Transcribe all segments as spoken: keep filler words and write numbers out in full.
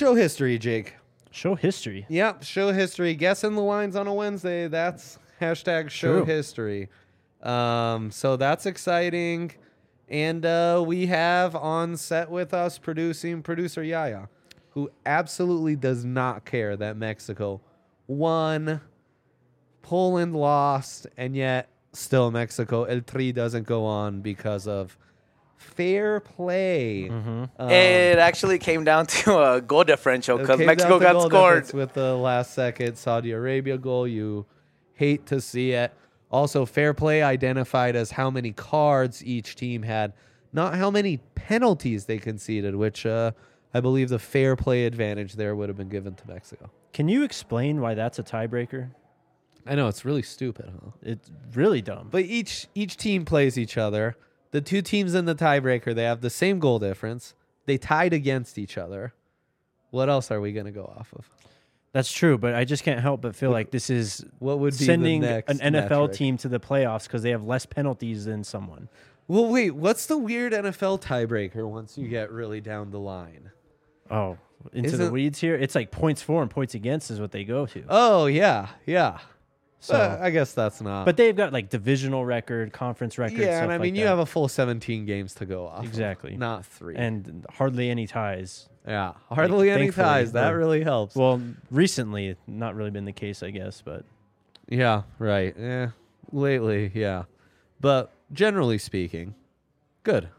show history, Jake. Show history. Yep, show history. Guessing the lines on a Wednesday. That's hashtag show True. history. Um, so that's exciting. And uh, we have on set with us producing producer Yaya, who absolutely does not care that Mexico won, Poland lost, and yet still Mexico El Tri doesn't go on because of fair play. Mm-hmm. Um, It actually came down to a goal differential it because came Mexico down to got goal scored. difference with the last second Saudi Arabia goal. You hate to see it. Also, fair play identified as how many cards each team had, not how many penalties they conceded, which uh, I believe the fair play advantage there would have been given to Mexico. Can you explain why that's a tiebreaker? I know, it's really stupid, huh? It's really dumb. But each each team plays each other. The two teams in the tiebreaker, they have the same goal difference. They tied against each other. What else are we going to go off of? That's true, but I just can't help but feel like this is What would be sending the next an N F L metric? team to the playoffs because they have less penalties than someone. Well, wait, what's the weird N F L tiebreaker once you get really down the line? Oh, into the Isn't- weeds here? It's like points for and points against is what they go to. Oh, yeah, yeah. So, Uh, I guess that's not. but they've got like divisional record, conference record. yeah, stuff and I mean, like you that. have a full seventeen games to go off. of, Exactly. not three. and hardly any ties. yeah, hardly any thankfully, ties. That we're- really helps. Well, recently, not really been the case, I guess, but yeah, right. Yeah, lately, yeah. But generally speaking, good.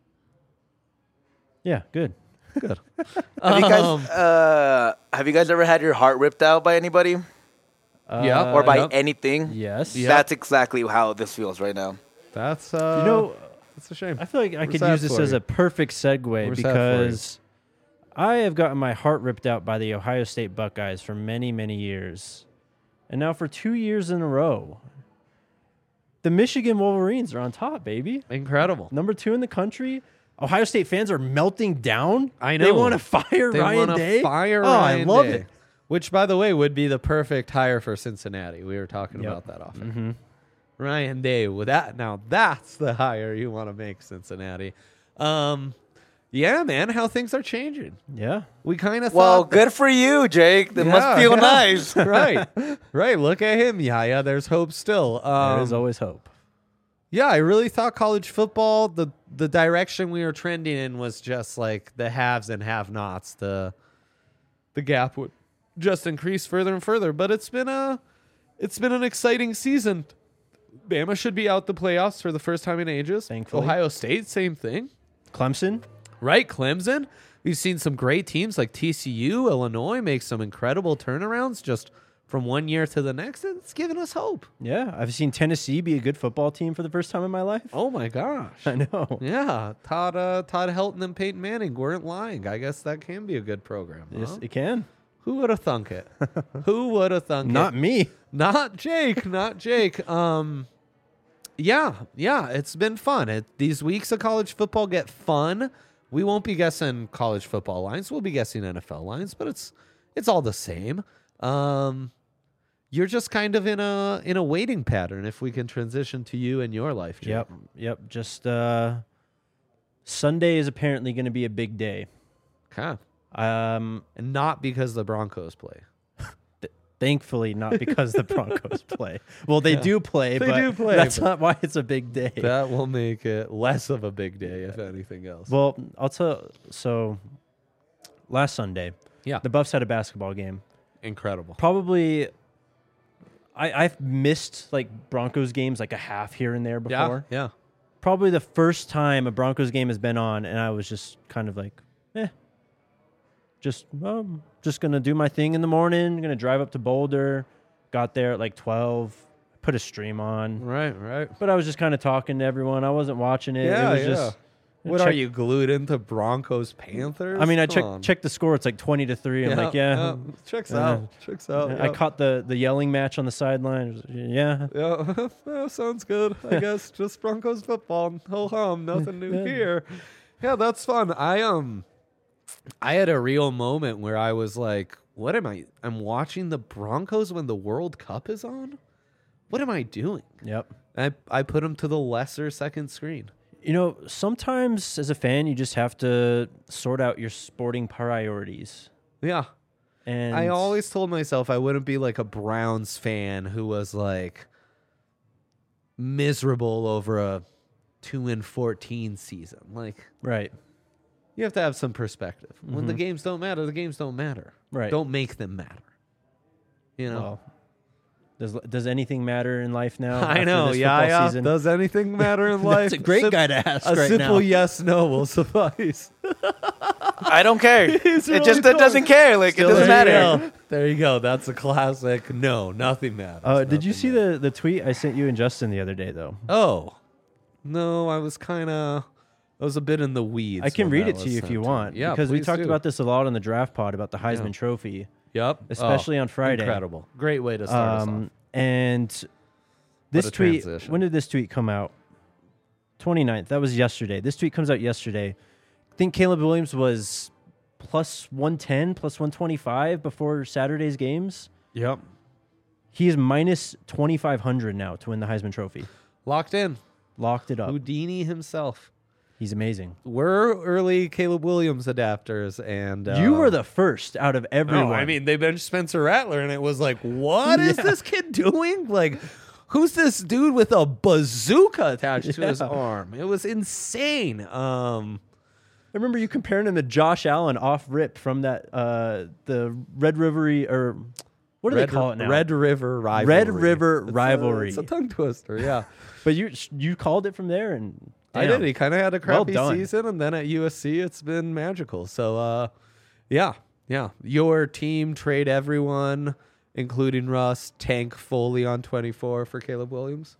yeah, good. Good. Have you guys Um, uh, have you guys ever had your heart ripped out by anybody Yeah. Uh, or by yep. anything? yes. Yeah. That's exactly how this feels right now. That's uh, You know, that's a shame. I feel like I We're could sad use this for as you. a perfect segue We're sad for you. because I have gotten my heart ripped out by the Ohio State Buckeyes for many, many years. And now for two years in a row, the Michigan Wolverines are on top, baby. Incredible. Number two in the country. Ohio State fans are melting down. I They know. want to fire They Ryan wanna Day. Fire oh, Ryan I love Day. it. Which, by the way, would be the perfect hire for Cincinnati. We were talking Yep. about that often. Mm-hmm. Ryan Day. With that, now that's the hire you want to make, Cincinnati. Um, yeah, man, how things are changing. Yeah. We kind of Well, thought. good for you, Jake. That must Yeah, feel yeah. nice. right, right. Look at him, Yaya. There's hope still. Um, there is always hope. Yeah, I really thought college football, the the direction we were trending in was just like the haves and have-nots. The the gap would just increase further and further. But it's been a it's been an exciting season. Bama should be out the playoffs for the first time in ages. Thankfully. Ohio State, same thing. Clemson. Right, Clemson. We've seen some great teams like T C U, Illinois make some incredible turnarounds just from one year to the next. It's given us hope. Yeah. I've seen Tennessee be a good football team for the first time in my life. Oh my gosh. I know. Yeah, Todd uh, Todd Helton and Peyton Manning weren't lying. I guess that can be a good program. Yes, huh? it can. Who would have thunk it? Who would have thunk Not it? me. Not Jake. Not Jake. Um, yeah, yeah, it's been fun. It, these weeks of college football get fun. We won't be guessing college football lines. We'll be guessing N F L lines, but it's it's all the same. Um, you're just kind of in a in a waiting pattern. If we can transition to you and your life, Jake. Yep. Yep. Just uh, Sunday is apparently going to be a big day. Okay. Um, And not because the Broncos play. thankfully, not because the Broncos play. Well, they Yeah. do play, They but do play, that's but- not why it's a big day. That will make it less of a big day, if anything else. Well, I'll tell. So, last Sunday, Yeah. the Buffs had a basketball game. Incredible. Probably, I, I've missed like Broncos games like a half here and there Yeah. before. Yeah. Probably the first time a Broncos game has been on, and I was just kind of like, eh, just um, just gonna do my thing in the morning. Gonna drive up to Boulder. Got there at like twelve. Put a stream on, Right, right. but I was just kind of talking to everyone. I wasn't watching it. Yeah, it was yeah. just. What check- are you glued into Broncos Panthers? I mean, I Come checked on. checked the score. It's like twenty to three. I'm like, yeah. Checks Yeah. out. Checks out. I Yep. caught the the yelling match on the sideline. Yeah. Yeah, yeah, sounds good. I guess just Broncos football. Ho hum, nothing new Yeah. here. Yeah, that's fun. I um, I had a real moment where I was like, "What am I? I'm watching the Broncos when the World Cup is on. What am I doing?" Yep. I I put them to the lesser second screen. You know, sometimes as a fan, you just have to sort out your sporting priorities. Yeah. And I always told myself I wouldn't be like a Browns fan who was like miserable over a two and fourteen season. Like, right, you have to have some perspective. When the Mhm. games don't matter, the games don't matter. right. Don't make them matter. You know? Well, does does anything matter in life now? I after know. this Yeah, football yeah. season? Does anything matter in life? That's a great Sim- guy to ask A right simple now. yes, no will suffice. I don't care. He's it really just it cold. doesn't care. Like Still, it doesn't there you matter. go. There you go. That's a classic. No, nothing matters. Uh, did you Nothing see matters. the the tweet I sent you and Justin the other day though? Oh, no, I was kind of, I was a bit in the weeds. I can when read that it to was you if sent you me. want. Yeah, because we please talked do. about this a lot on the draft pod about the Heisman Yeah. Trophy, Yep, especially Oh, on Friday. Incredible, great way to start us off. Um, and this a tweet, transition. when did this tweet come out? twenty-ninth. That was yesterday. This tweet comes out yesterday. I think Caleb Williams was plus one ten, plus one twenty-five before Saturday's games. Yep, He is minus twenty-five hundred now to win the Heisman Trophy. locked in. Locked it up. Houdini himself. He's amazing. We're early Caleb Williams adapters, and uh, You were the first out of everyone. No, I mean they benched Spencer Rattler, and it was like, what is Yeah. this kid doing? Like, who's this dude with a bazooka attached to his Yeah. arm? It was insane. Um, I remember you comparing him to Josh Allen off rip from that uh, the Red River or what do Red, they call it now? Red River rivalry. Red River It's a- rivalry. It's a, tongue twister. Yeah, But you you called it from there, and I damn. did. He kind of had a Well crappy done. season, and then at U S C, it's been magical. So, uh, yeah, yeah. Your team trade everyone, including Russ, tank fully on twenty-four for Caleb Williams.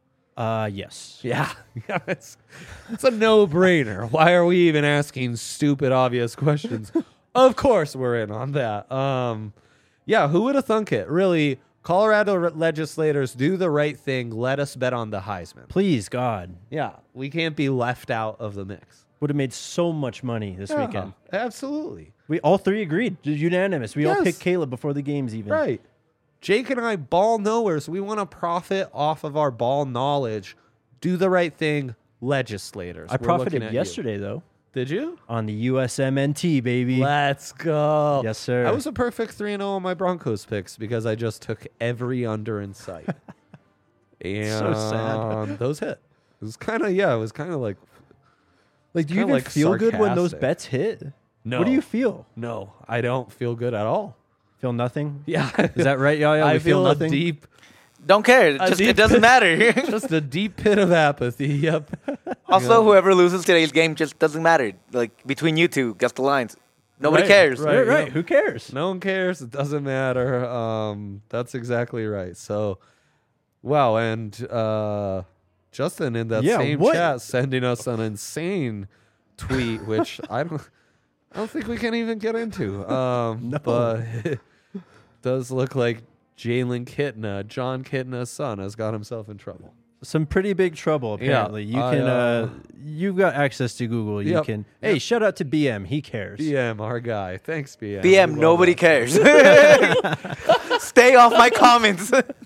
Uh, yes. Yeah, yeah, it's, it's a no-brainer. Why are we even asking stupid, obvious questions? Of course, we're in on that. Um, yeah, who would have thunk it? Really, Colorado re- legislators do the right thing. Let us bet on the Heisman. Please, God, Yeah, we can't be left out of the mix. would have made so much money this Yeah, weekend. absolutely. We all three agreed, unanimous. We all Yes. picked Caleb before the games even. Right. Jake and I ball knowers. We want to profit off of our ball knowledge. Do the right thing, legislators. I We're looking profited at you. yesterday though Did you? on the U S M N T baby. Let's go. Yes, sir. I was a perfect three and oh on my Broncos picks because I just took every under in sight. And So sad. those hit. It was kind of, yeah, it was kind of like, like, do you kinda, even like, feel good when those sarcastic. bets hit? no. What do you feel? No, I don't feel good at all. Feel nothing? Yeah. Is that right, Yaya? I We feel, feel nothing. a deep, Don't care. It A just deep- it doesn't matter. just a deep pit of apathy. Yep. Also, Yeah. whoever loses today's game just doesn't matter. Like between you two, guess the lines. Nobody Right, cares. right. Right, right. yeah. Who cares? No one cares. It doesn't matter. Um, that's exactly right. So, wow. And uh, Justin in that Yeah, same what- chat sending us an insane tweet, which I don't, I don't think we can even get into. Um, No. But it does look like Jalen Kitna, John Kitna's son, has got himself in trouble. Some pretty big trouble apparently. you I, can uh, uh, you've got access to Google. You Yep, can Hey, shout out to B M. He cares. B M, our guy. Thanks, B M. B M, We love nobody that. cares. Stay off my comments.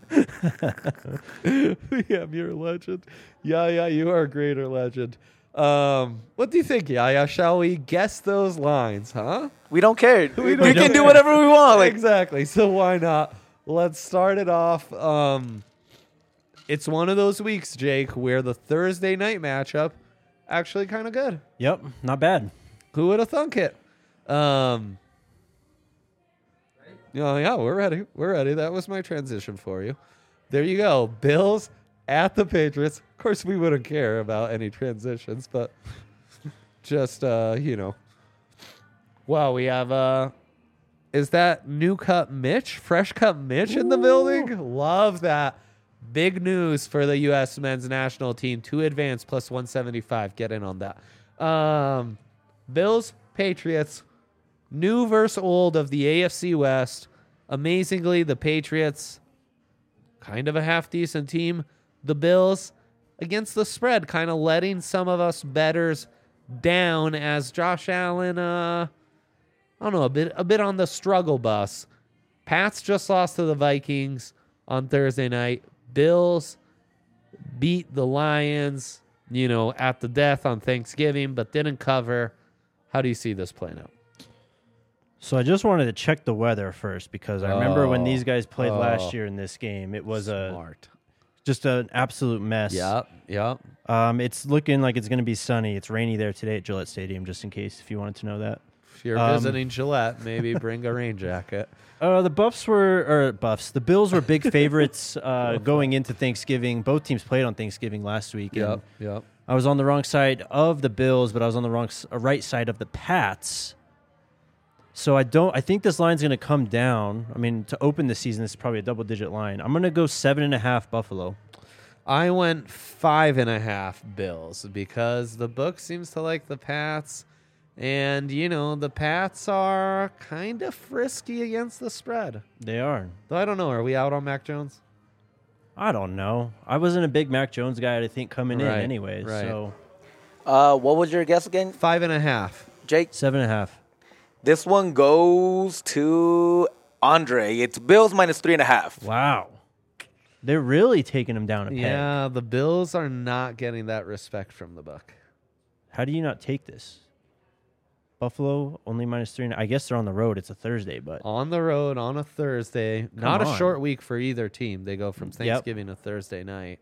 Yeah, you're a legend. Yeah, yeah, you are a greater legend. Um, what do you think, Yaya? Shall we guess those lines, huh? We don't care. We We, don't can do care. whatever we want. Like exactly. So why not? Let's start it off. Um, it's one of those weeks, Jake, where the Thursday night matchup actually kind of good. Yep, not bad. Who would have thunk it? Um, yeah, yeah, we're ready. We're ready. That was my transition for you. There you go. Bills at the Patriots. Of course, we wouldn't care about any transitions, but just, uh, you know. Wow, we have, uh, is that new cut Mitch? Fresh cut Mitch in the building? Love that. Big news for the U S men's national team to advance plus one seventy-five. Get in on that. Um, Bills, Patriots, new versus old of the A F C West. Amazingly, the Patriots, kind of a half decent team. The Bills, against the spread, kind of letting some of us bettors down as Josh Allen, uh, I don't know, a bit, a bit on the struggle bus. Pats just lost to the Vikings on Thursday night. Bills beat the Lions, you know, at the death on Thanksgiving, but didn't cover. How do you see this playing out? So I just wanted to check the weather first because I remember when Oh. these guys played Oh. last year in this game, it was a Smart. just an absolute mess. Yep. Yep. Um, it's looking like it's going to be sunny. It's rainy there today at Gillette Stadium, just in case if you wanted to know that. If you're Um, visiting Gillette, maybe bring a rain jacket. Uh, the Buffs were, or Buffs, the Bills were big favorites uh, going into Thanksgiving. Both teams played on Thanksgiving last week. and Yep. Yep. I was on the wrong side of the Bills, but I was on the wrong s- uh, right side of the Pats. So I don't. I think this line's going to come down. I mean, to open the season, this is probably a double-digit line. I'm going to go seven and a half Buffalo. I went five and a half Bills because the book seems to like the Pats. And, you know, the Pats are kind of frisky against the spread. They are. Though I don't know. Are we out on Mac Jones? I don't know. I wasn't a big Mac Jones guy, I think, coming Right, in anyways. right. So Uh, what was your guess again, Five and a half. Jake? seven and a half. This one goes to Andre. It's Bills minus three and a half. Wow. They're really taking them down a peg. Yeah, the Bills are not getting that respect from the book. How do you not take this? Buffalo only minus three. And I guess they're on the road. It's a Thursday, but On the road on a Thursday. Not a on. short week for either team. They go from Yep. Thanksgiving to Thursday night.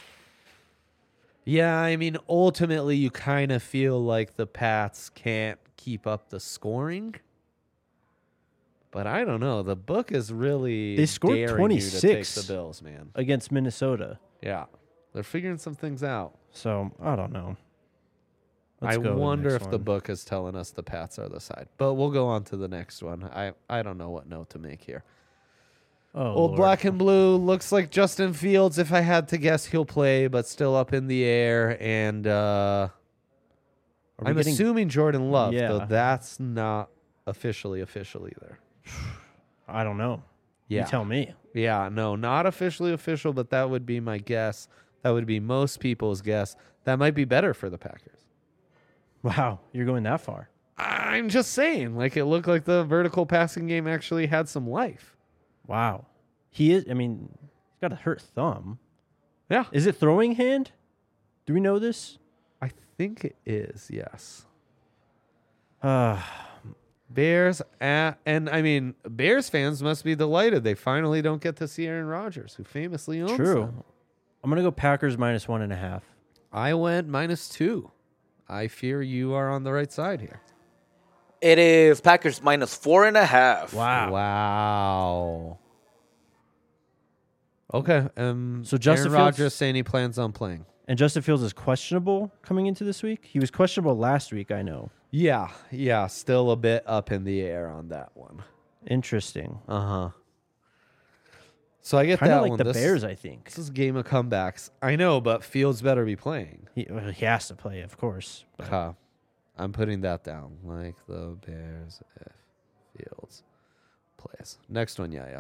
Yeah, I mean, ultimately, you kind of feel like the Pats can't keep up the scoring. But I don't know. The book is really They scored daring you to take twenty-six. the Bills, man. against Minnesota. Yeah, they're figuring some things out. So I don't know. Let's I go to the wonder next if the one. book is telling us the Pats are the side. But we'll go on to the next one. I, I don't know what note to make here. Oh, Old Lord. black and blue looks like Justin Fields. If I had to guess, he'll play, but still up in the air. And uh, Are we I'm getting- assuming Jordan Love, Yeah. though that's not officially official either. I don't know. Yeah, You tell me. yeah, no, not officially official, but that would be my guess. That would be most people's guess. That might be better for the Packers. Wow, you're going that far. I'm just saying, like it looked like the vertical passing game actually had some life. Wow. He is. I mean, he's got a hurt thumb. Yeah, Is it throwing hand? Do we know this? I think it is. Yes. Uh, Bears at, and I mean, Bears fans must be delighted they finally don't get to see Aaron Rodgers, who famously owns true. them. I'm gonna go Packers minus one and a half. I went minus two. I fear you are on the right side here. It is Packers minus four and a half. Wow. Wow. Okay. Um, So Justin Aaron Fields- Rodgers saying he plans on playing. And Justin Fields is questionable coming into this week. He was questionable last week. I know. Yeah, yeah, still a bit up in the air on that one. Interesting. Uh huh. So I get Kind that of like one. the This- Bears, I think. This is a game of comebacks. I know, but Fields better be playing. He, well, he has to play, of course. but- Huh. I'm putting that down. Like the Bears if Fields plays. Next one, yeah,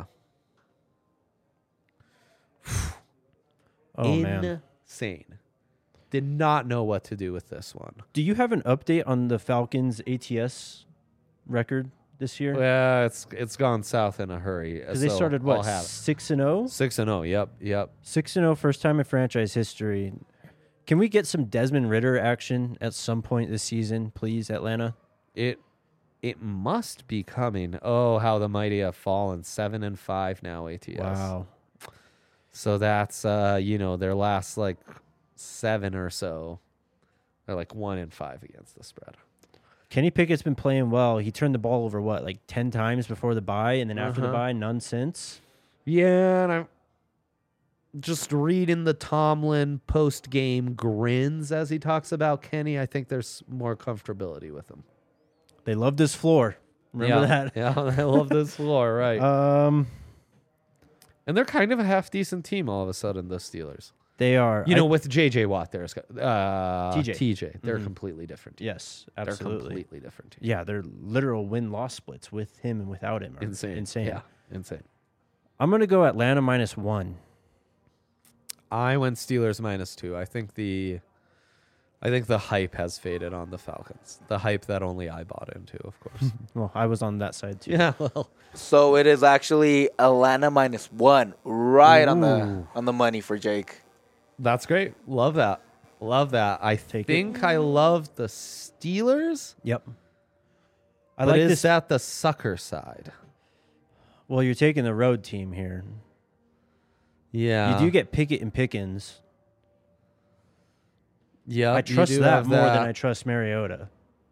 yeah. Oh man. Insane. Did not know what to do with this one. Do you have an update on the Falcons A T S record this year? Yeah, it's it's gone south in a hurry. Because they so started I'll what have it. six and zero. Six and zero. Yep, yep. Six and zero, first time in franchise history. Can we get some Desmond Ritter action at some point this season, please, Atlanta? It it must be coming. Oh, how the mighty have fallen. Seven and five now. A T S. Wow. So that's uh, you know, their last like seven or so. They're like one and five against the spread. Kenny Pickett's been playing well. He turned the ball over what, like ten times before the bye, and then after the Uh-huh. bye, none since. Yeah, and I'm just reading the Tomlin post game grins as he talks about Kenny. I think there's more comfortability with him. They loved his floor. Remember yeah, that? Yeah, I love this floor, right? Um, and they're kind of a half decent team all of a sudden, the Steelers. they are. You I- know, with J J Watt, there's uh, T J. T J. They're Mhm. completely different. Team. yes, They're absolutely. completely different. Team. Yeah, they're literal win loss splits with him and without him. Are Insane. Insane. Yeah, insane. I'm gonna go Atlanta minus one. I went Steelers minus two. I think the, I think the hype has faded on the Falcons. The hype that only I bought into, of course. Well, I was on that side too. yeah, well, So it is actually Atlanta minus one, right on the Ooh. on the money for Jake. that's great. Love that. Love that. I Take it. think I love the Steelers. Yep. I but like is this. that the sucker side? Well, you're taking the road team here. Yeah. You do get Pickett and Pickens. Yeah. I trust that more than I trust Mariota.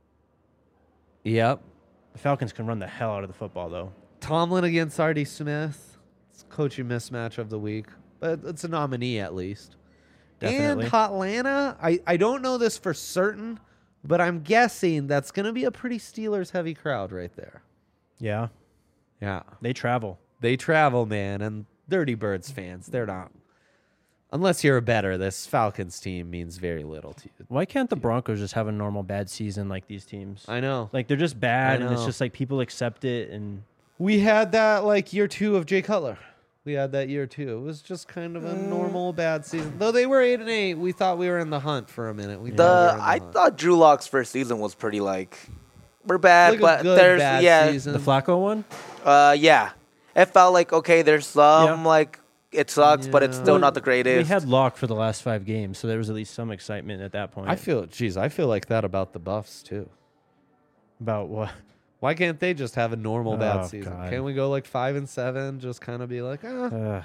Yep. The Falcons can run the hell out of the football, though. Tomlin against Artie Smith. It's coaching mismatch of the week, but it's a nominee at least. Definitely. And Hotlanta, I, I don't know this for certain, but I'm guessing that's going to be a pretty Steelers heavy crowd right there. Yeah, Yeah. they travel. They travel, man, and Dirty Birds fans, they're not. Unless you're a better, this Falcons team means very little to you. Why can't the Broncos just have a normal bad season like these teams? I know. Like, they're just bad, I and it's know. just like people accept it. And We had that like year two of Jay Cutler. We had that year too. It was just kind of a normal bad season. Though they were eight and eight, we thought we were in the hunt for a minute. We The thought we were in the I hunt. thought Drew Lock's first season was pretty like we're bad, Like a but good there's bad yeah, season. the Flacco one? uh, yeah. It felt like okay, there's some Yeah. like it sucks, but it's Yeah. still Well, not the greatest. We had Locke for the last five games, so there was at least some excitement at that point. I feel, geez, I feel like that about the Buffs too. About what? Why can't they just have a normal bad Oh, season? God. Can't we go like five and seven? Just kind of be like, ah. Uh,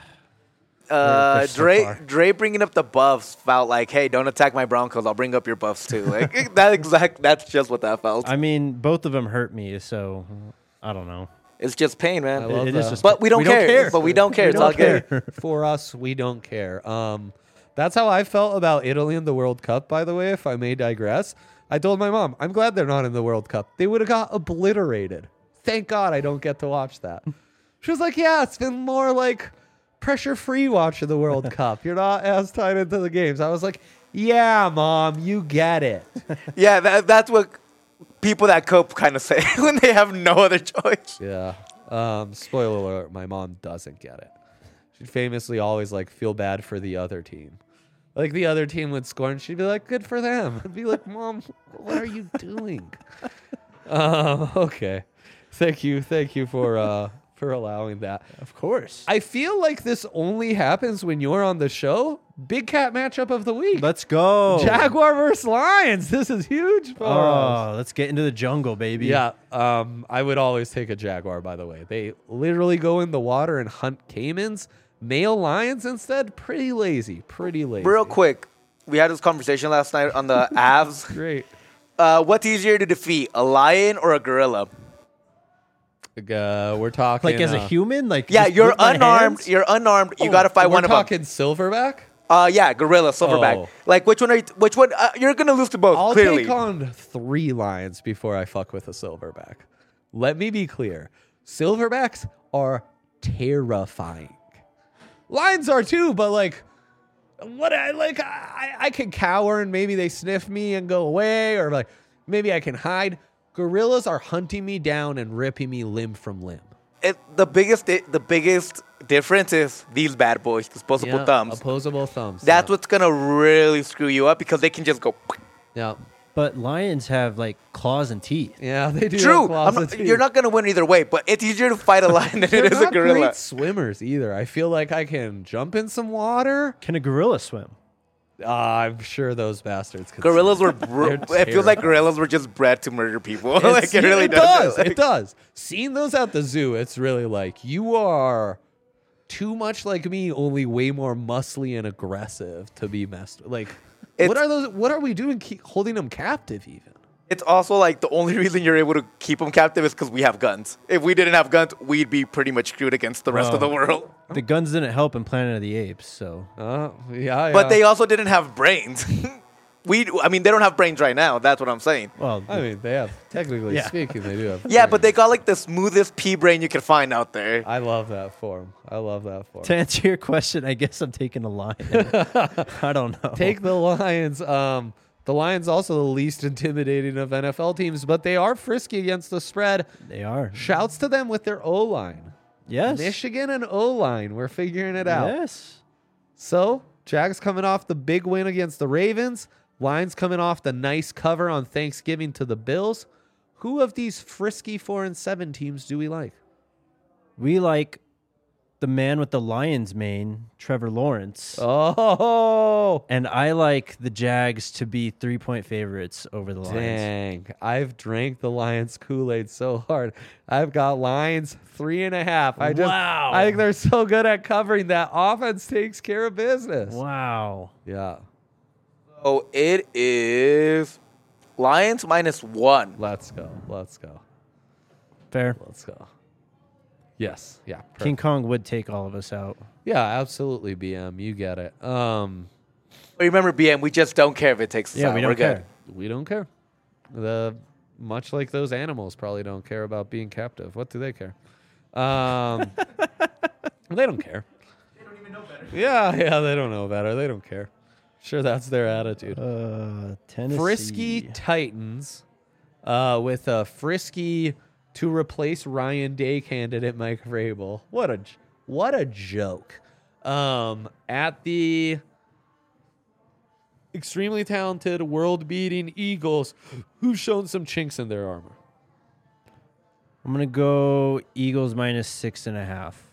uh, they're so Dre far. Dre bringing up the Buffs felt like, hey, don't attack my Broncos. I'll bring up your Buffs too. Like that exact. That's just what that felt. I mean, both of them hurt me, so I don't know. It's just pain, man. I love it is that. just- But we don't, We don't care. care. But we don't care. We it's don't all good. care. For us, we don't care. Um, that's how I felt about Italy in the World Cup, by the way, if I may digress. I told my mom, I'm glad they're not in the World Cup. They would have got obliterated. Thank God I don't get to watch that. She was like, yeah, it's been more like pressure-free watching the World Cup. You're not as tied into the games. I was like, yeah, Mom, you get it. Yeah, that, that's what people that cope kind of say when they have no other choice. Yeah. Um, spoiler alert, my mom doesn't get it. She'd famously always like feel bad for the other team. Like the other team would score and she'd be like, good for them. I'd be like, Mom, what are you doing? Um, okay. Thank you. Thank you for uh for allowing that. Of course. I feel like this only happens when you're on the show. Big cat matchup of the week. Let's go. Jaguar versus Lions. This is huge for us. Oh, let's get into the jungle, baby. Yeah, um, I would always take a jaguar, by the way. They literally go in the water and hunt caimans. Male lions instead, pretty lazy, pretty lazy. Real quick, we had this conversation last night on the Avs. Great. Uh, what's easier to defeat, a lion or a gorilla? Uh, we're talking. Like as a uh, human, like Yeah, just you're with my unarmed. hands? You're unarmed. You oh, gotta fight we're one of them. talking silverback? Uh, yeah, gorilla, silverback. Oh. Like which one are you? Which one? Uh, you're gonna lose to both. I'll clearly. take on three lions before I fuck with a silverback. Let me be clear. Silverbacks are terrifying. Lions are too, but like, what I like, I, I can cower and maybe they sniff me and go away, or like maybe I can hide. Gorillas are hunting me down and ripping me limb from limb. It, the biggest, di- the biggest difference is these bad boys, disposable Yeah, thumbs. Opposable thumbs. That's yeah. what's gonna really screw you up because they can just go. Yeah. But lions have like claws and teeth. Yeah, they do. have True, claws I'm and not, teeth. you're not gonna win either way, but it's easier to fight a lion than They're it is a not gorilla. great swimmers either. I feel like I can jump in some water. Can a gorilla swim? Uh, I'm sure those bastards could. Gorillas swim. were. Br- They're it feels like terrifying. gorillas were just bred to murder people. like It's- it really it does. does. It does. Seeing those at the zoo, it's really like you are too much like me, only way more muscly and aggressive to be messed with. Like, It's- what are those? What are we doing? Keep holding them captive, even. It's also like the only reason you're able to keep them captive is because we have guns. If we didn't have guns, we'd be pretty much screwed against the rest of the Wow. world. The guns didn't help in Planet of the Apes, so Uh, yeah, But yeah. they also didn't have brains. we, I mean, they don't have brains right now. That's what I'm saying. well. I mean, they have. Technically Yeah. speaking, they do have. Yeah, but they brains. got like the smoothest pea brain you can find out there. I love that form. I love that form. To answer your question, I guess I'm taking a lion. I don't know. Take the Lions. Um, the Lions also the least intimidating of N F L teams, but they are frisky against the spread. They are. Shouts to them with their O line. Yes. Michigan and O line. We're figuring it out. Yes. So Jags coming off the big win against the Ravens. Lions coming off the nice cover on Thanksgiving to the Bills. Who of these frisky four and seven teams do we like? We like the man with the Lions mane, Trevor Lawrence. Oh, And I like the Jags to be three-point favorites over the Lions. dang. I've drank the Lions Kool-Aid so hard. I've got Lions three and a half. I just, Wow. I think they're so good at covering that offense takes care of business. Wow. Yeah. So it is Lions minus one. Let's go. Let's go. Fair. Let's go. Yes. Yeah. Perfect. King Kong would take all of us out. Yeah, absolutely, B M. You get it. Um, Remember, B M, we just don't care if it takes us Yeah, out. we don't We're good. care. we don't care. The much like those animals probably don't care about being captive. What do they care? Um, they don't care. They don't even know better. Yeah, yeah, they don't know better. They don't care. Sure, that's their attitude. Uh, Tennessee. Frisky Titans, uh, with a frisky to replace Ryan Day candidate Mike Vrabel. What a j- what a joke. Um, at the extremely talented, world-beating Eagles, who've shown some chinks in their armor. I'm going to go Eagles minus six and a half.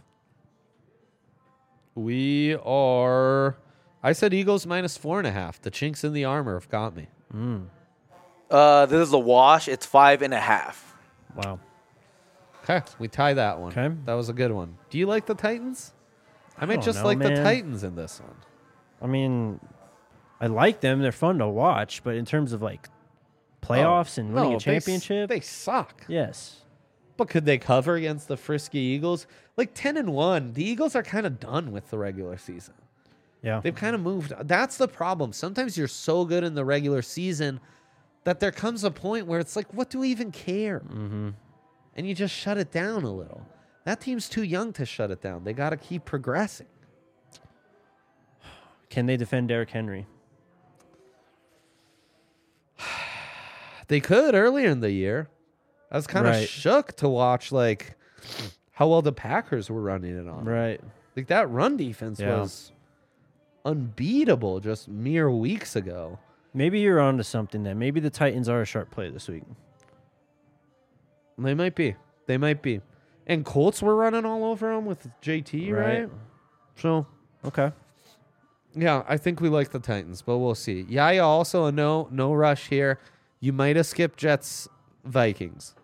We are. I said Eagles minus four and a half. The chinks in the armor have got me. Uh, this is a wash. It's five and a half. Wow. Okay, we tie that one. Okay. That was a good one. Do you like the Titans? I might don't just know, like the man. Titans in this one. I mean, I like them. They're fun to watch. But in terms of like playoffs and winning No, a championship, They, s- they suck. yes. But could they cover against the frisky Eagles? Like ten and one, the Eagles are kind of done with the regular season. Yeah. They've kind of moved. That's the problem. Sometimes you're so good in the regular season that there comes a point where it's like, what do we even care? Mm-hmm. And you just shut it down a little. That team's too young to shut it down. They got to keep progressing. Can they defend Derrick Henry? They could earlier in the year. I was kind of Right. shook to watch like how well the Packers were running it on. Right. Like that run defense Yeah. was unbeatable just mere weeks ago. Maybe you're onto something then. Maybe the Titans are a sharp play this week. They might be. They might be. And Colts were running all over them with J T, right? Right. So, Okay. yeah, I think we like the Titans, but we'll see. Yaya also a no no rush here. You might have skipped Jets Vikings.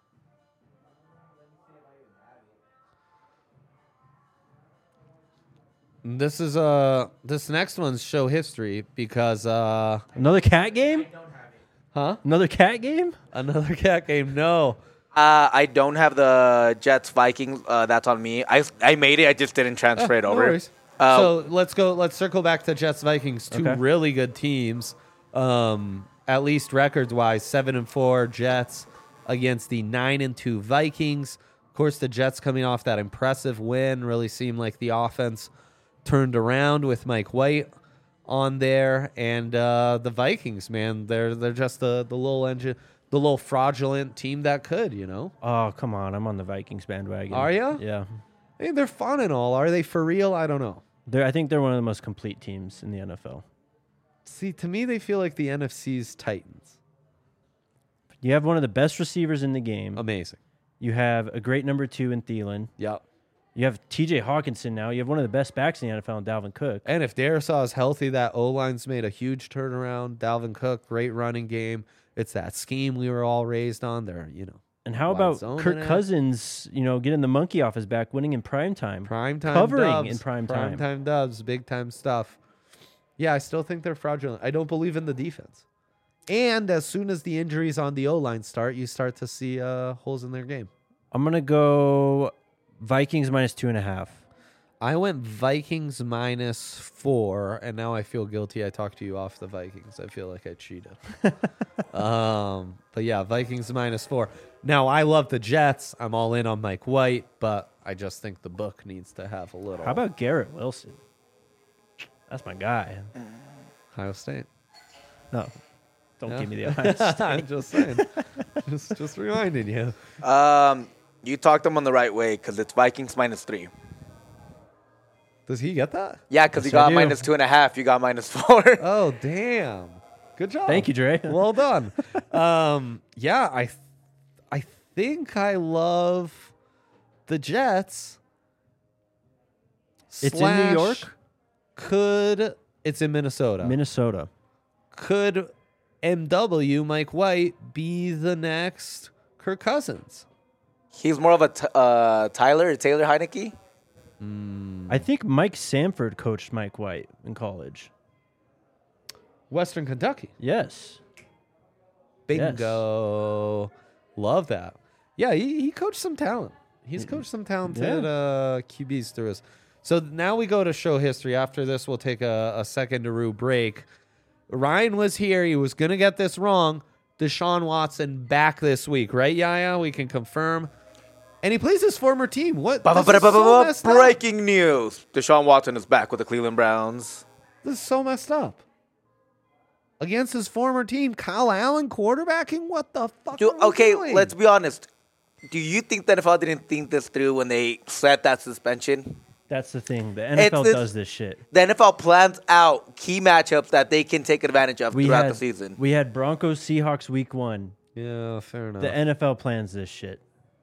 This is uh this next one's show history because uh Another cat game? huh? Another cat game? Another cat game. No. Uh, I don't have the Jets Vikings. Uh, that's on me. I, I made it. I just didn't transfer it No over. worries. Uh, so let's go. Let's circle back to Jets Vikings. Two Okay. really good teams, um, at least records wise. Seven and four Jets against the nine and two Vikings. Of course, the Jets coming off that impressive win really seemed like the offense turned around with Mike White on there, and uh, the Vikings, man, they're they're just the the little engine, the little fraudulent team that could, you know. Oh, come on. I'm on the Vikings bandwagon. Are ya? Yeah. I mean, they're fun and all. Are they for real? I don't know. They're, I think they're one of the most complete teams in the N F L. See, to me, they feel like the N F C's Titans. You have one of the best receivers in the game. Amazing. You have a great number two in Thielen. Yep. You have T J Hawkinson now. You have one of the best backs in the N F L in Dalvin Cook. And if Darisaw is healthy, that O-line's made a huge turnaround. Dalvin Cook, great running game. It's that scheme we were all raised on. They're, you know, And how Wide about zone Kirk in it. Cousins, you know, getting the monkey off his back, winning in prime time? prime time Covering dubs, in prime time. Prime time dubs, big time stuff. Yeah, I still think they're fraudulent. I don't believe in the defense. And as soon as the injuries on the O-line start, you start to see uh, holes in their game. I'm going to go Vikings minus two and a half. I went Vikings minus four, and now I feel guilty. I talked to you off the Vikings. I feel like I cheated. um, but yeah, Vikings minus four. Now, I love the Jets. I'm all in on Mike White, but I just think the book needs to have a little. How about Garrett Wilson? That's my guy. Ohio State? No, don't No? give me the Ohio State. I'm just saying. just, just reminding you. Um, you talked them on the right way because it's Vikings minus three. Does he get that? Yeah, because Yes, you I got do. minus two and a half. You got minus four. Oh, damn. Good job. Thank you, Dre. Well done. um, yeah, I, th- I think I love the Jets, It's in New York? Slash Could it's in Minnesota? Minnesota. Could M W Mike White be the next Kirk Cousins? He's more of a t- uh, Tyler Taylor Heineke. I think Mike Sanford coached Mike White in college. Western Kentucky. Yes. Bingo. Love that. Yeah, he, he coached some talent. He's coached some talented Yeah. uh, Q Bs through us. So now we go to show history. After this, we'll take a, a second to break. Ryan was here. He was going to get this wrong. Deshaun Watson back this week, right, Yaya? We can confirm. And he plays his former team. What? This is so messed up. Breaking news. Deshaun Watson is back with the Cleveland Browns. This is so messed up. Against his former team, Kyle Allen quarterbacking? What the fuck Dude, are we okay, doing? let's be honest. Do you think the N F L didn't think this through when they set that suspension? That's the thing. The N F L It's- does this shit. The N F L plans out key matchups that they can take advantage of We throughout had the season. we had Broncos Seahawks week one. Yeah, fair enough. The N F L plans this shit.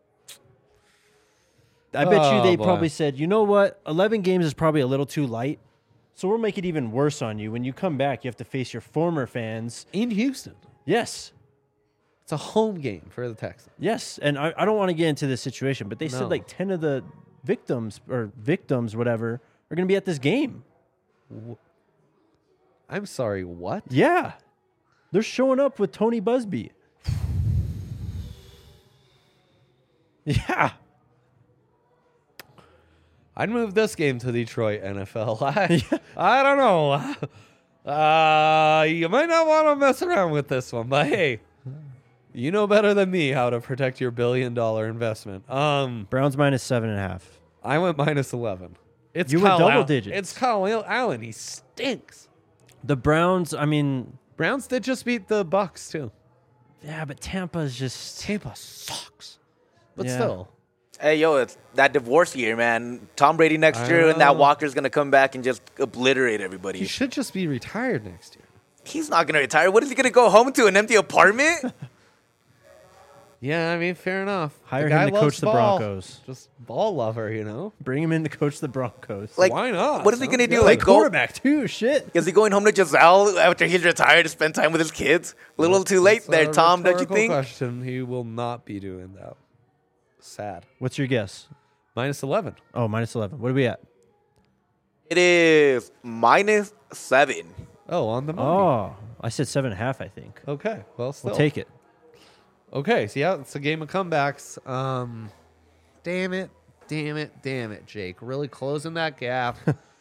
I bet you Oh, they boy. probably said, you know what, eleven games is probably a little too light, so we'll make it even worse on you. When you come back, you have to face your former fans. In Houston. Yes, It's a home game for the Texans. yes, and I, I don't want to get into this situation, but they No. said like ten of the victims or victims, whatever, are going to be at this game. I'm sorry, what? Yeah, they're showing up with Tony Busby. Yeah. I'd move this game to Detroit, N F L. I, I don't know. Uh, you might not want to mess around with this one, but hey, you know better than me how to protect your billion dollar investment. Um, Browns minus seven and a half. I went minus eleven. It's You went Kyle double Allen. digits. It's Kyle Allen. He stinks. The Browns, I mean, Browns did just beat the Bucks too. yeah, but Tampa's just Tampa sucks, but Yeah. still. Hey, yo, it's that divorce year, man. Tom Brady next I year, and know. that Walker's going to come back and just obliterate He everybody. should just be retired next year. He's not going to retire. What is he going to go home to, an empty apartment? Yeah, I mean, fair enough. The Hire guy him to loves coach the ball. Broncos. Just ball lover, you know. Bring him in to coach the Broncos. Like, Why not? What is he Sounds going to do? good. Like, go, quarterback too. Shit. is he going home to Giselle after he's retired to spend time with his kids? A little too late That's a there, Tom, don't you rhetorical think? Question. He will not be doing that. Sad. What's your guess? Minus eleven. Oh, minus eleven. What are we at? It is minus seven. Oh, on the money. Oh, I said seven and a half. I think. Okay. Well, still. We'll take it. Okay. So yeah, it's a game of comebacks. Um, damn it, damn it, damn it, Jake. Really closing that gap.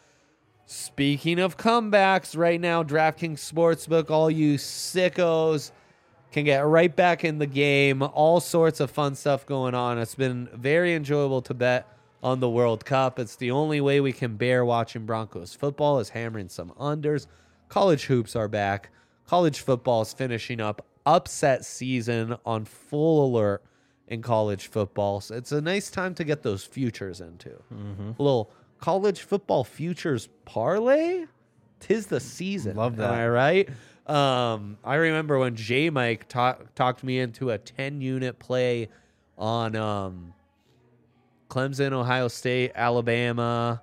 Speaking of comebacks, right now, DraftKings Sportsbook, all you sickos can get right back in the game. All sorts of fun stuff going on. It's been very enjoyable to bet on the World Cup. It's the only way we can bear watching Broncos football is hammering some unders. College hoops are back. College football is finishing up upset season on full alert in college football. So it's a nice time to get those futures into. A little college football futures parlay. Tis the season. Love that. Am I right? Um, I remember when J Mike ta- talked me into a ten unit play on um, Clemson, Ohio State, Alabama,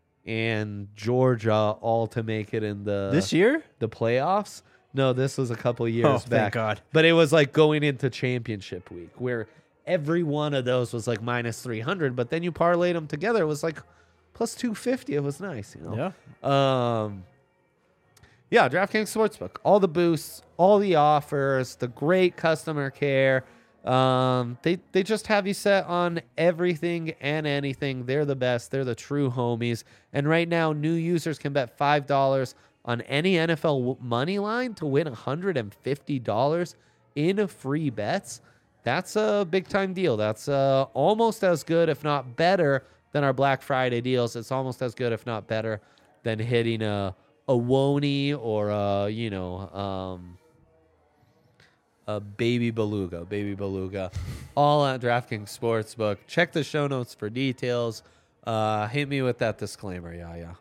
and Georgia, all to make it in the This year? the playoffs. No, this was a couple years Oh, back. thank God. But it was like going into championship week where every one of those was like minus three hundred, but then you parlayed them together. It was like plus two fifty. It was nice, you know? Yeah. Um, yeah, DraftKings Sportsbook. All the boosts, all the offers, the great customer care. Um, they, they just have you set on everything and anything. They're the best. They're the true homies. And right now, new users can bet five dollars on any N F L w- money line to win one hundred fifty dollars in free bets. That's a big time deal. That's uh, almost as good, if not better, than our Black Friday deals. It's almost as good, if not better, than hitting a a Woney or a, you know, um, a baby beluga, baby beluga, all at DraftKings Sportsbook. Check the show notes for details. Uh, hit me with that disclaimer, yeah, yeah.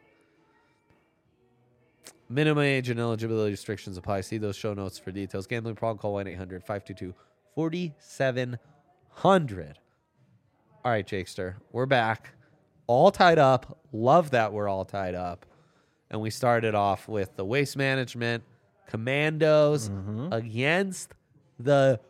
Minimum age and eligibility restrictions apply. See those show notes for details. Gambling problem, call one eight hundred five two two four seven zero zero. All right, Jakester, we're back. all tied up. Love that we're all tied up. And we started off with the Waste Management Commandos Mm-hmm. against the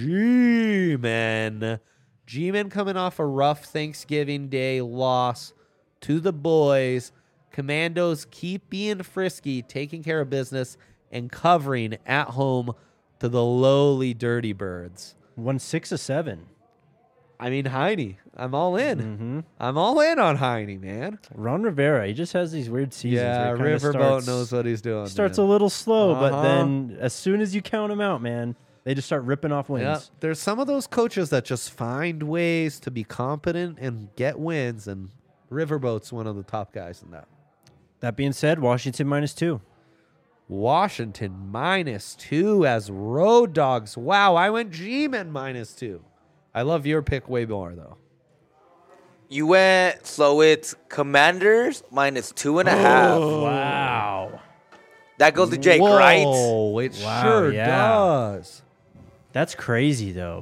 G-Men. G-Men coming off a rough Thanksgiving Day loss to the boys. Commandos keep being frisky, taking care of business, and covering at home to the lowly Dirty Birds. Won six of seven. I mean, Heine. I'm all in. Mm-hmm. I'm all in on Heine, man. Ron Rivera, he just has these weird seasons. Yeah, where he kinda Riverboat starts- knows what he's doing. Starts man. a little slow, but Uh-huh. then as soon as you count them out, man, they just start ripping off wins. Yeah, there's some of those coaches that just find ways to be competent and get wins, and Riverboat's one of the top guys in that. That being said, Washington minus two. Washington minus two as road dogs. Wow, I went G-Men minus two. I love your pick way more, though. You went, so it's Commanders minus two and a half. Wow. That goes to Jake, Whoa, right? it Wow, sure yeah. does. That's crazy, though.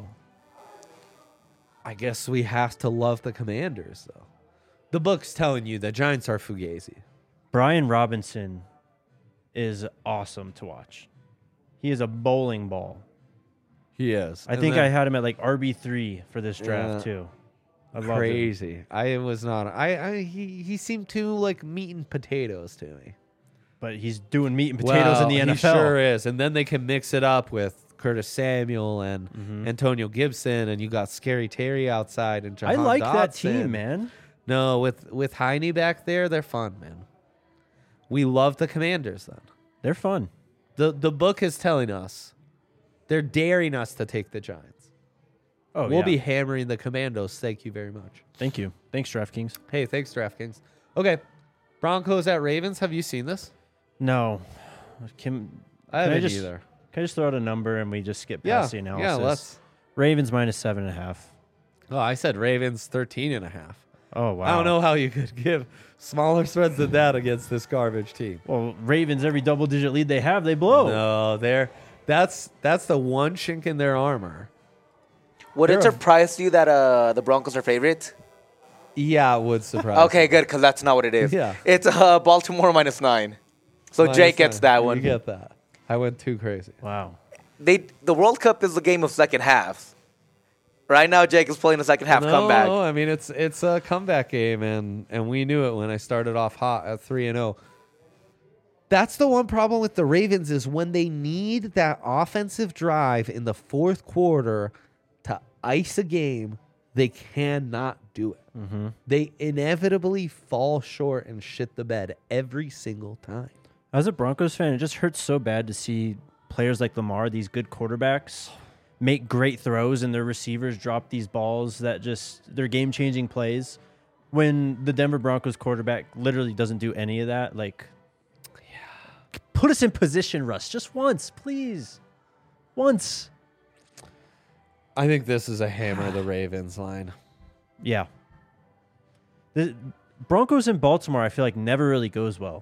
I guess we have to love the Commanders, though. The book's telling you the Giants are Fugazi. Brian Robinson is awesome to watch. He is a bowling ball. He is. I think I had him at like R B three for this draft, Yeah. too. I loved him. crazy. I was not. I, I he he seemed too like meat and potatoes to me. But he's doing meat and potatoes Well, in the N F L. He sure is. And then they can mix it up with Curtis Samuel and Mm-hmm. Antonio Gibson, and you got Scary Terry outside and I Jahan like that Dodson. team, man. No, with with Heine back there, they're fun, man. We love the Commanders. Then They're fun. the the book is telling us they're daring us to take the Giants. Oh, we'll yeah. be hammering the Commandos. Thank you very much. Thank you. Thanks, DraftKings. Hey, thanks, DraftKings. Okay, Broncos at Ravens. Have you seen this? No. Can, I can haven't I just, either. Can I just throw out a number and we just skip Yeah, past the analysis? yeah. Let's. Ravens minus seven and a half. Oh, I said Ravens thirteen and a half. Oh, wow. I don't know how you could give smaller spreads than that against this garbage team. Well, Ravens, every double-digit lead they have, they blow. No, they're that's that's the one chink in their armor. Would it They're a- surprise you that uh, the Broncos are favorite? Yeah, it would surprise. Okay, good, because that's not what it is. Yeah. It's uh, Baltimore minus nine. So Minus Jake gets nine. that You one. get that. I went too crazy. Wow. They the World Cup is the game of second halves. Right now, Jake is playing the second half no, comeback. I mean it's it's a comeback game, and and we knew it when I started off hot at three and zero. That's the one problem with the Ravens is when they need that offensive drive in the fourth quarter to ice a game, they cannot do it. Mm-hmm. They inevitably fall short and shit the bed every single time. As a Broncos fan, it just hurts so bad to see players like Lamar, these good quarterbacks, make great throws and their receivers drop these balls that just, they're game-changing plays. When the Denver Broncos quarterback literally doesn't do any of that, like, yeah, put us in position, Russ, just once, please. Once. I think this is a hammer the Ravens line. Yeah. The Broncos in Baltimore, I feel like never really goes well.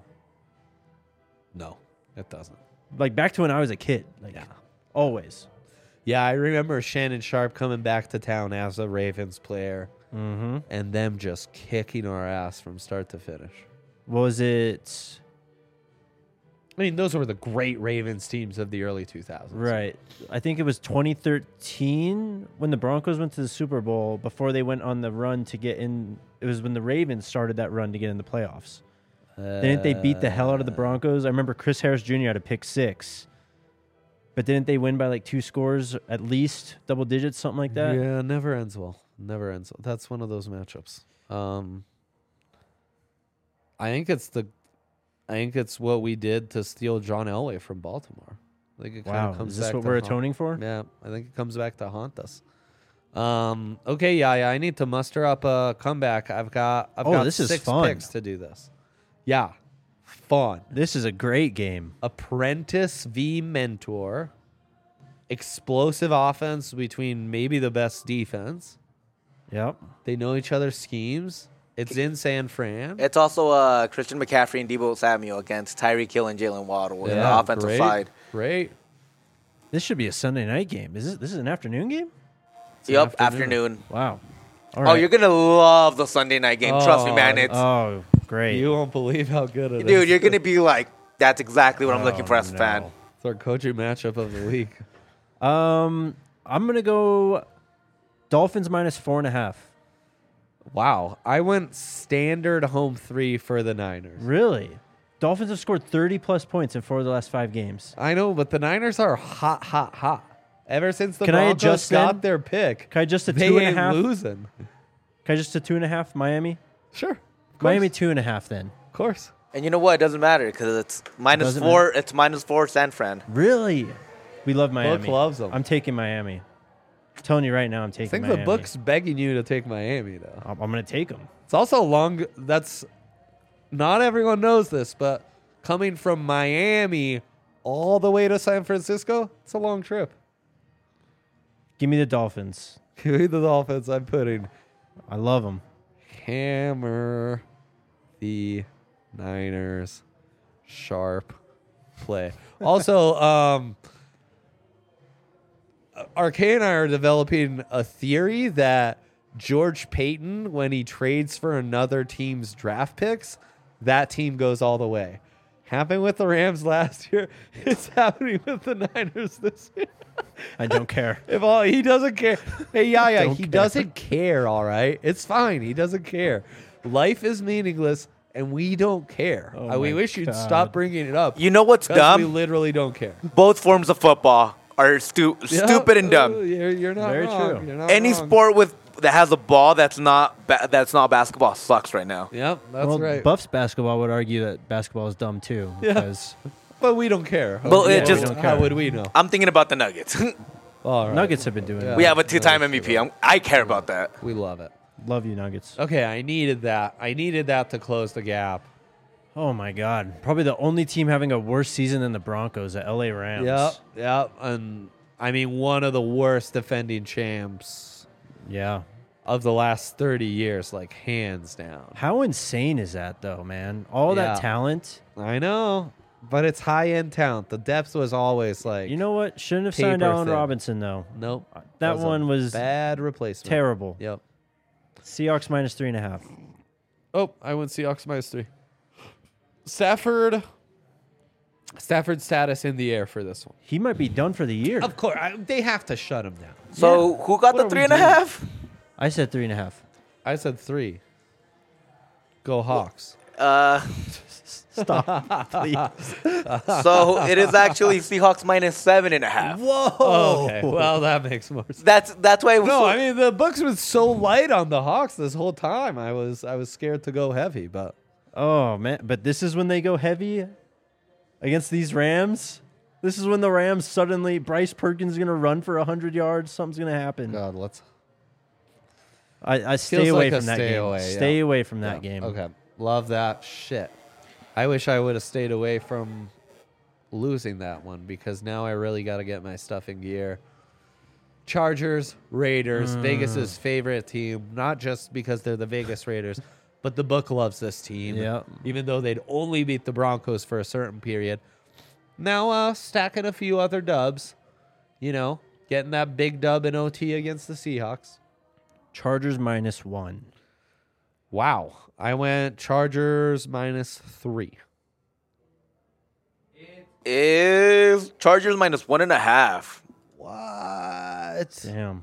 No, it doesn't. Like back to when I was a kid. Like Yeah. always. Yeah, I remember Shannon Sharp coming back to town as a Ravens player Mm-hmm. and them just kicking our ass from start to finish. Was it I mean, those were the great Ravens teams of the early two thousands. right? I think it was twenty thirteen when the Broncos went to the Super Bowl before they went on the run to get in. It was when the Ravens started that run to get in the playoffs. Didn't they beat the hell out of the Broncos? I remember Chris Harris Junior had a pick six. But didn't they win by like two scores at least, double digits, something like that? Yeah, never ends well. Never ends well. That's one of those matchups. Um, I think it's the, I think it's what we did to steal John Elway from Baltimore. I think it kind Wow, of comes is this back what to we're haunt- atoning for? Yeah, I think it comes back to haunt us. Um, okay, yeah, yeah. I need to muster up a comeback. I've got, I've Oh, got this is six fun. picks to do this. Yeah, fun. This is a great game. Apprentice v Mentor. Explosive offense between maybe the best defense. Yep. They know each other's schemes. It's in San Fran. It's also uh, Christian McCaffrey and Deebo Samuel against Tyreek Hill and Jalen Waddle in the offensive great, side. Great. This should be a Sunday night game. Is this this is an afternoon game? Yep, afternoon. afternoon. Wow. All Oh, right. you're gonna love the Sunday night game. Trust me, man. It's Oh, great. You won't believe how good it is. dude. You're gonna be like, that's exactly what I'm looking Oh, for as a no. fan. It's our coaching matchup of the week. Um, I'm gonna go Dolphins minus four and a half. Wow. I went standard home three for the Niners. Really? Dolphins have scored thirty plus points in four of the last five games. I know, but the Niners are hot, hot, hot. Ever since the Can I Broncos adjust got then? their pick, Can I just a they two and a ain't half? losing. Can I just a two and a half Miami? Sure. Of course. Miami two and a half then. Of course. And you know what? It doesn't matter because it's minus Doesn't four. It's minus four San Fran. Really? We love Miami. loves 'em. I'm taking Miami. I'm telling you right now, I'm taking I think Miami. the book's begging you to take Miami, though. I'm, I'm gonna take them. It's also long. That's not everyone knows this, but coming from Miami all the way to San Francisco, it's a long trip. Give me the Dolphins. Give me the Dolphins. I'm putting I love them. hammer the Niners. Sharp play. Also, um, Arcade and I are developing a theory that George Payton, when he trades for another team's draft picks, that team goes all the way. Happened with the Rams last year. It's happening with the Niners this year. I don't care. If all he doesn't care. Hey, yeah, yeah, Don't he care. doesn't care. All right, it's fine. He doesn't care. Life is meaningless, and we don't care. Oh Uh, we my wish you'd God. stop bringing it up. You know what's 'cause dumb? We literally don't care. Both forms of football are stu- Yeah, stupid and uh, dumb. You're, you're not Very wrong. true. You're not Any wrong. sport with that has a ball that's not ba- that's not basketball sucks right now. Yep, that's well, right. Buffs basketball would argue that basketball is dumb too. Yeah. Because But we don't care. But it Yeah, just- we don't how would we know? I'm thinking about the Nuggets. All right. Nuggets have been doing Yeah. it. we have a two-time M V P. I'm, I care about that. We love it. Love you, Nuggets. Okay, I needed that. I needed that to close the gap. Oh my God. Probably the only team having a worse season than the Broncos, the L A Rams. Yep, yep. And I mean, one of the worst defending champs Yeah. of the last thirty years, like hands down. How insane is that though, man? All Yeah. that talent. I know, but it's high end talent. The depth was always like, You know what? Shouldn't have signed paper Allen thin. Robinson though. nope. That a one was bad replacement. Terrible. Yep. Seahawks minus three and a half. Oh, I went Seahawks minus three. Stafford. Stafford's status in the air for this one. He might be done for the year. Of course, I, they have to shut him down. So who got What the are three we and a doing? half? I said three and a half. I said three. Go Hawks. Uh, Stop, please. so it is actually Seahawks minus seven and a half. Whoa. Okay, well that makes more sense. That's that's why. It was No, so- I mean the books was so light on the Hawks this whole time. I was I was scared to go heavy, but Oh man, but this is when they go heavy against these Rams. This is when the Rams suddenly Bryce Perkins is gonna run for hundred yards. Something's gonna happen. God, let's I, I stay Feels away like a from that stay game. away, Stay yeah. away from that yeah, game. Okay, love that shit. I wish I would have stayed away from losing that one because now I really got to get my stuff in gear. Chargers, Raiders, Mm. Vegas's favorite team, not just because they're the Vegas Raiders, but the book loves this team. Yeah. Even though they'd only beat the Broncos for a certain period. Now uh, stacking a few other dubs, you know, getting that big dub in O T against the Seahawks. Chargers minus one. Wow. I went Chargers minus three. is Chargers minus one and a half. What? Damn.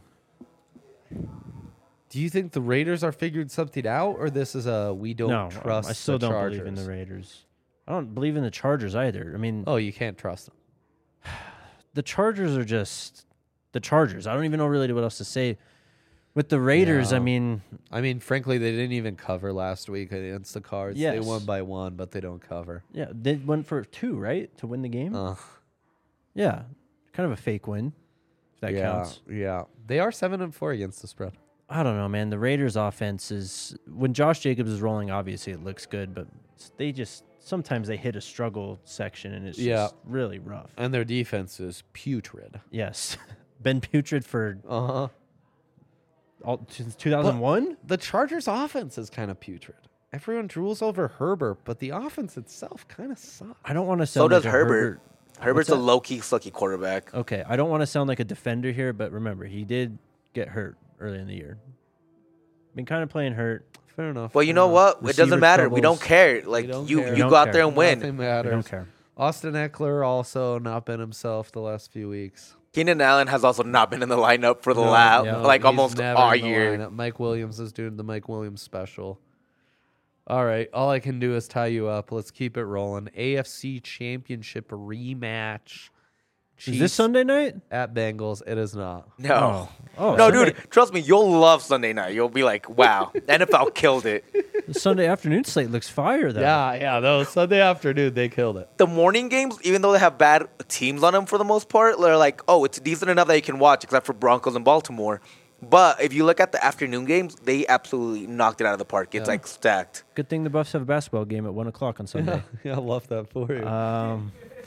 Do you think the Raiders are figuring something out, or this is a we don't No, trust I still the don't Chargers? believe in the Raiders. I don't believe in the Chargers either. I mean, Oh, you can't trust them. the Chargers are just the Chargers. I don't even know really what else to say. With the Raiders, I Yeah. mean, I mean, frankly, they didn't even cover last week against the Cards. They Yes. won by one, but they don't cover. yeah, they went for two, right, to win the game. Ugh. Yeah, kind of a fake win. If that yeah, counts. yeah. They are seven and four against the spread. I don't know, man. The Raiders' offense is when Josh Jacobs is rolling. Obviously, it looks good, but they just sometimes they hit a struggle section, and it's Yeah. just really rough. And their defense is putrid. Yes, been putrid for Uh huh. all, since two thousand one. The Chargers' offense is kind of putrid. Everyone drools over Herbert, but the offense itself kind of sucks. I don't want to So sound does like a Herbert. Herbert's a that? low key sucky quarterback. Okay, I don't want to sound like a defender here, but remember, he did get hurt early in the year. Been kind of playing hurt. Fair enough. Well, you fair know enough. what? It doesn't Receiver matter. We don't troubles. care. Like don't you, care. you We don't go out care. there and win. Nothing We matters. don't care. Austin Eckler also not been himself the last few weeks. Keenan Allen has also not been in the lineup for the No, lab, yeah. like he's almost never all in the year. lineup. Mike Williams is doing the Mike Williams special. All right, all I can do is tie you up. Let's keep it rolling. A F C Championship rematch. Is this Chiefs Sunday night? at Bengals? It is not. No. Oh, No, Sunday, dude, trust me, you'll love Sunday night. You'll be like, wow, N F L killed it. The Sunday afternoon slate looks fire, though. Yeah, yeah. Those Sunday afternoon, they killed it. The morning games, even though they have bad teams on them for the most part, they're like, oh, it's decent enough that you can watch, except for Broncos and Baltimore. But if you look at the afternoon games, they absolutely knocked it out of the park. It's Yeah. like stacked. Good thing the Buffs have a basketball game at one o'clock on Sunday. Yeah, I love that for you. Um,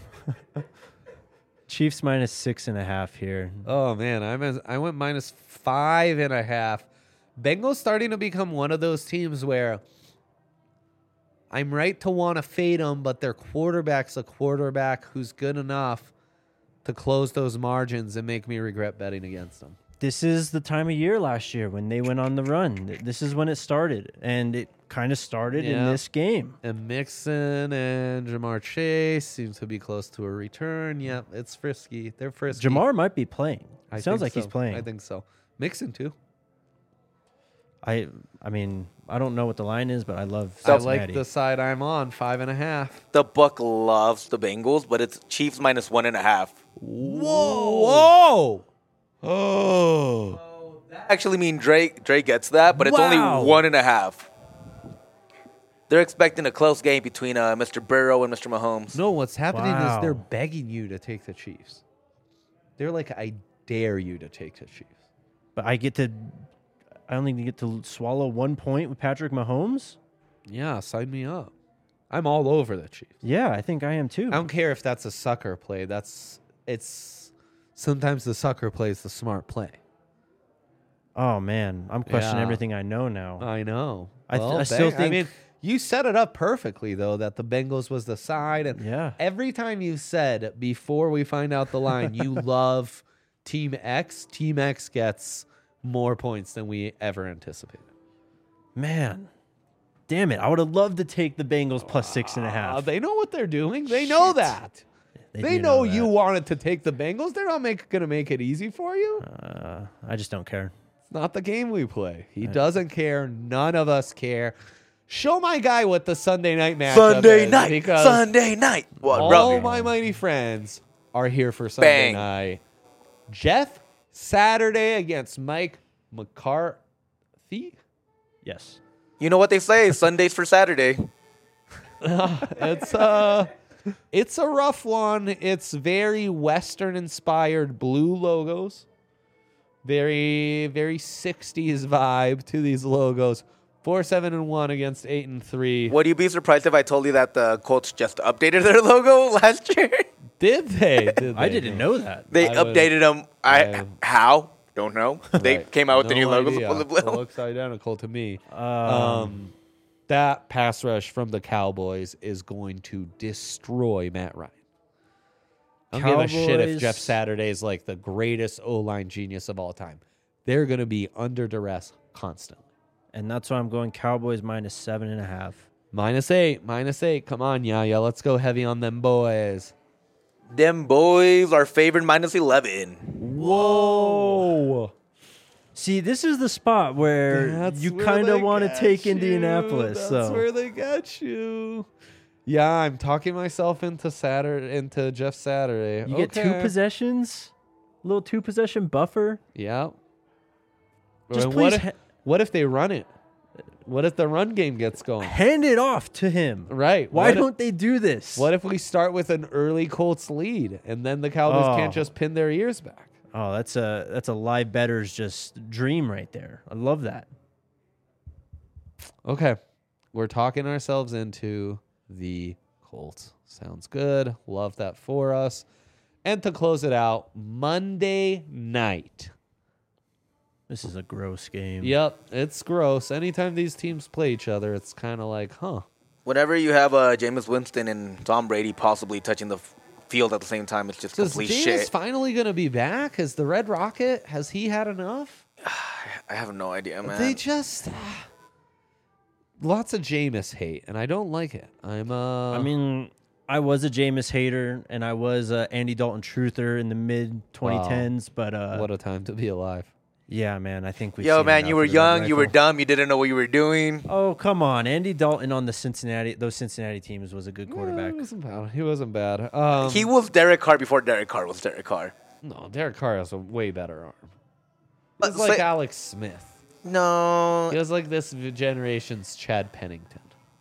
Chiefs minus six and a half here. Oh man, I'm as, I went minus five and a half. Bengals starting to become one of those teams where I'm right to want to fade them, but their quarterback's a quarterback who's good enough to close those margins and make me regret betting against them. This is the time of year last year when they went on the run. This is when it started, and it kind of started in Yeah. this game. And Mixon and Jamar Chase seem to be close to a return. Yep, it's frisky. They're frisky. Jamar might be playing. I Sounds think like he's so. playing. I think so. Mixon too. I I mean, I don't know what the line is, but I love I Cincinnati. like the side I'm on, five and a half. The book loves the Bengals, but it's Chiefs minus one and a half. Whoa! Whoa! Oh. That actually mean Drake Drake gets that, but it's Wow. only one and a half. They're expecting a close game between uh, Mister Burrow and Mister Mahomes. No, what's happening Wow. is they're begging you to take the Chiefs. They're like, I dare you to take the Chiefs. But I get to, I only get to swallow one point with Patrick Mahomes. Yeah, sign me up. I'm all over the Chiefs. Yeah, I think I am too. I don't care if that's a sucker play. That's it's sometimes the sucker play is the smart play. Oh man, I'm questioning Yeah. everything I know now. I know. I th- Well, I still Beng- I mean, think- you set it up perfectly though that the Bengals was the side, and Yeah. every time you said before we find out the line, you love Team X. Team X gets more points than we ever anticipated. Man, damn it! I would have loved to take the Bengals plus six and a Uh, half. they know what they're doing. They know that. They, do know, that. you wanted to take the Bengals. They're not make, gonna make it easy for you. Uh, I just don't care. It's not the game we play. He doesn't care. None of us care. Show my guy what the Sunday night matchup Sunday is, night, because Sunday night. What, all bro? my mighty friends are here for Sunday Bang. night. Jeff Saturday against Mike McCarthy. Yes. You know what they say? Sundays for Saturday. It's uh it's a rough one. It's very Western inspired blue logos. Very, very sixties vibe to these logos. Four, seven, and one against eight and three. Would you be surprised if I told you that the Colts just updated their logo last year? Did they? Did I they? didn't know that. They I would- updated them. I, I- how? Don't know. They Right. came out with the No new logos. idea. Blue, blue, It blue. looks identical to me. Um, Um, that pass rush from the Cowboys is going to destroy Matt Ryan. I don't give a shit if Cowboys- Jeff Saturday is like the greatest O-line genius of all time. They're going to be under duress constantly. and that's why I'm going Cowboys minus seven and a half. Minus eight, minus eight. Come on, Yaya. Let's go heavy on them boys. Them boys are favored minus eleven. Whoa. See, this is the spot where That's you where kind they of want to get take you. Indianapolis. That's so where they get you. Yeah, I'm talking myself into Saturday, into Jeff Saturday. you get two Okay. possessions, little two possession buffer. Yeah. Just Or please what if, ha- what if they run it? What if the run game gets going? hand it off to him. Right. Why What if- don't they do this? What if we start with an early Colts lead and then the Cowboys Oh. can't just pin their ears back? Oh, that's a that's a live better's just dream right there. I love that. Okay. We're talking ourselves into the Colts. Sounds good. Love that for us. And to close it out, Monday night. This is a gross game. Yep, it's gross. Anytime these teams play each other, it's kind of like, huh. Whenever you have uh, Jameis Winston and Tom Brady possibly touching the f- field at the same time, it's just Is complete Jameis shit. finally going to be back? Is the Red Rocket, has he had enough? I have no idea, man. They just lots of Jameis hate, and I don't like it. I'm uh I mean, I was a Jameis hater, and I was a Andy Dalton truther in the mid twenty tens. But uh, what a time to be alive. yeah, man, I think we. Yo, man, you were young, you were dumb, you didn't know what you were doing. Oh, come on, Andy Dalton on the Cincinnati, those Cincinnati teams was a good quarterback. Yeah, he wasn't bad. He wasn't bad. Um, He was Derek Carr before Derek Carr was Derek Carr. no, Derek Carr has a way better arm. But He's like say- Alex Smith. No. He was like this generation's Chad Pennington.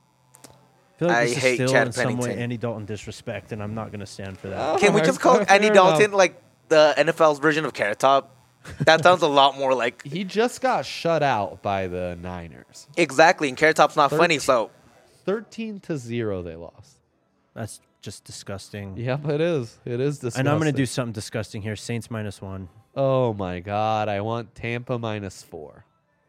I feel like I this is hate still Chad in some way Pennington. Andy Dalton disrespect, and I'm not going to stand for that. Can we just call Fair Andy enough. Dalton like the N F L's version of Carrot Top? That sounds a lot more like He just got shut out by the Niners. exactly. And Carrot Top's not funny, so thirteen to zero they lost. That's just disgusting. Yep, it is. It is disgusting. And I'm going to do something disgusting here. Saints minus one. Oh my god, I want Tampa minus four.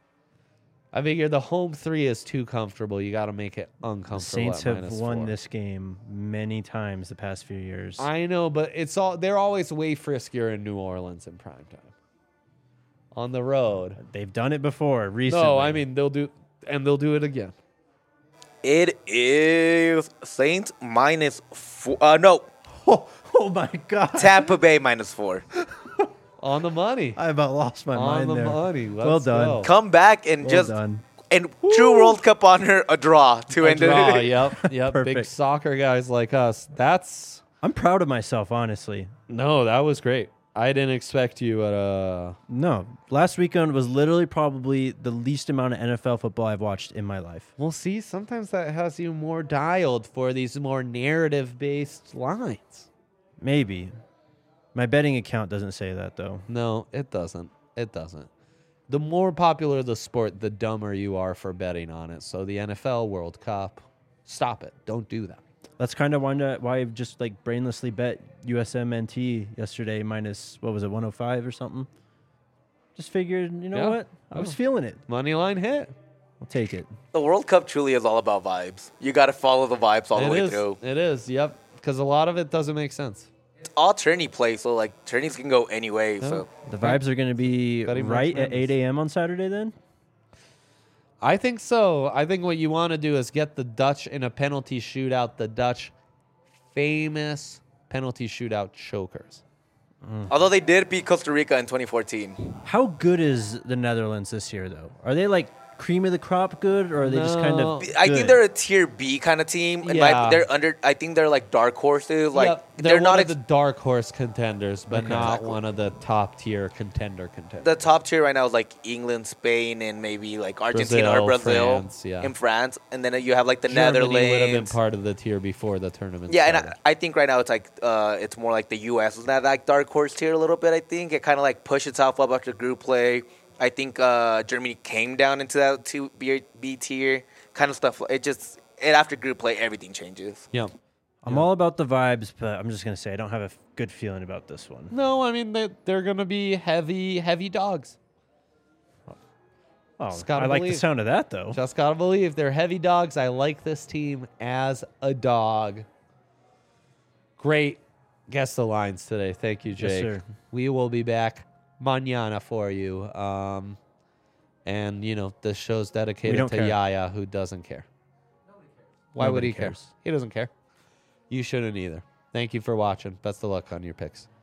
I figure the home three is too comfortable. You got to make it The uncomfortable. Saints at have minus won four. this game many times the past few years. I know, but it's all they're always way friskier in New Orleans in prime time. On the road. They've done it before recently. No, I mean they'll do and they'll do it again. it is Saints minus four. Uh, no, Oh, oh my God. Tampa Bay minus four. On the money. I about lost my On mind the there. money. Let's Well done. go. Come back and Well just done. and true World Cup honor a draw to A end draw, it. yep, yep. Big Perfect. soccer guys like us. That's I'm proud of myself, honestly. no, that was great. I didn't expect you at uh No, last weekend was literally probably the least amount of N F L football I've watched in my life. Well, see, sometimes that has you more dialed for these more narrative-based lines. Maybe. My betting account doesn't say that, though. No, it doesn't. It doesn't. The more popular the sport, the dumber you are for betting on it. So the N F L World Cup, stop it. Don't do that. That's kind of why why I've just like brainlessly bet U S M N T yesterday minus, what was it, one oh five or something? Just figured, you know Yeah. what? I was Oh. feeling it. Money line hit. I'll take it. The World Cup truly is all about vibes. You got to follow the vibes all the It way is. through. It is. Yep. Because a lot of it doesn't make sense. It's all tourney play, so like tourneys can go any way. So The vibes are going to be Betting right March at Madness. eight a.m. on Saturday then? I think so. I think what you want to do is get the Dutch in a penalty shootout. The Dutch famous penalty shootout chokers. although they did beat Costa Rica in twenty fourteen. How good is the Netherlands this year, though? Are they like cream of the crop good, or are they just kind No. of I good? think they're a tier B kind of team. And Yeah. my, they're under. I think they're like dark horses. Like Yep, they're, they're, not one ex- of the dark horse contenders, but Okay. not Exactly. one of the top tier contender contenders. the top tier right now is like England, Spain, and maybe like Argentina Brazil, or Brazil France, yeah. and France. And then you have like the Germany Netherlands. would have been part of the tier before the tournament. Yeah, and started. I, I think right now it's like uh, it's more like the U S is that like dark horse tier a little bit. I think it kind of like pushed itself up after group play. I think uh, Germany came down into that two B, B tier kind of stuff. It just it after group play everything changes. yeah. I'm all about the vibes, but I'm just going to say I don't have a f- good feeling about this one. No, I mean they they're gonna be heavy, heavy dogs. Oh, Just gotta I like the believe. sound of that, though. Just gotta believe they're heavy dogs. I like this team as a dog. Great guess the lines today. Thank you, Jake. sir. We will be back mañana for you. Um, and you know this show's dedicated don't to care. Yaya, who doesn't care. Why would Nobody he care? cares. He doesn't care. You shouldn't either. Thank you for watching. Best of luck on your picks.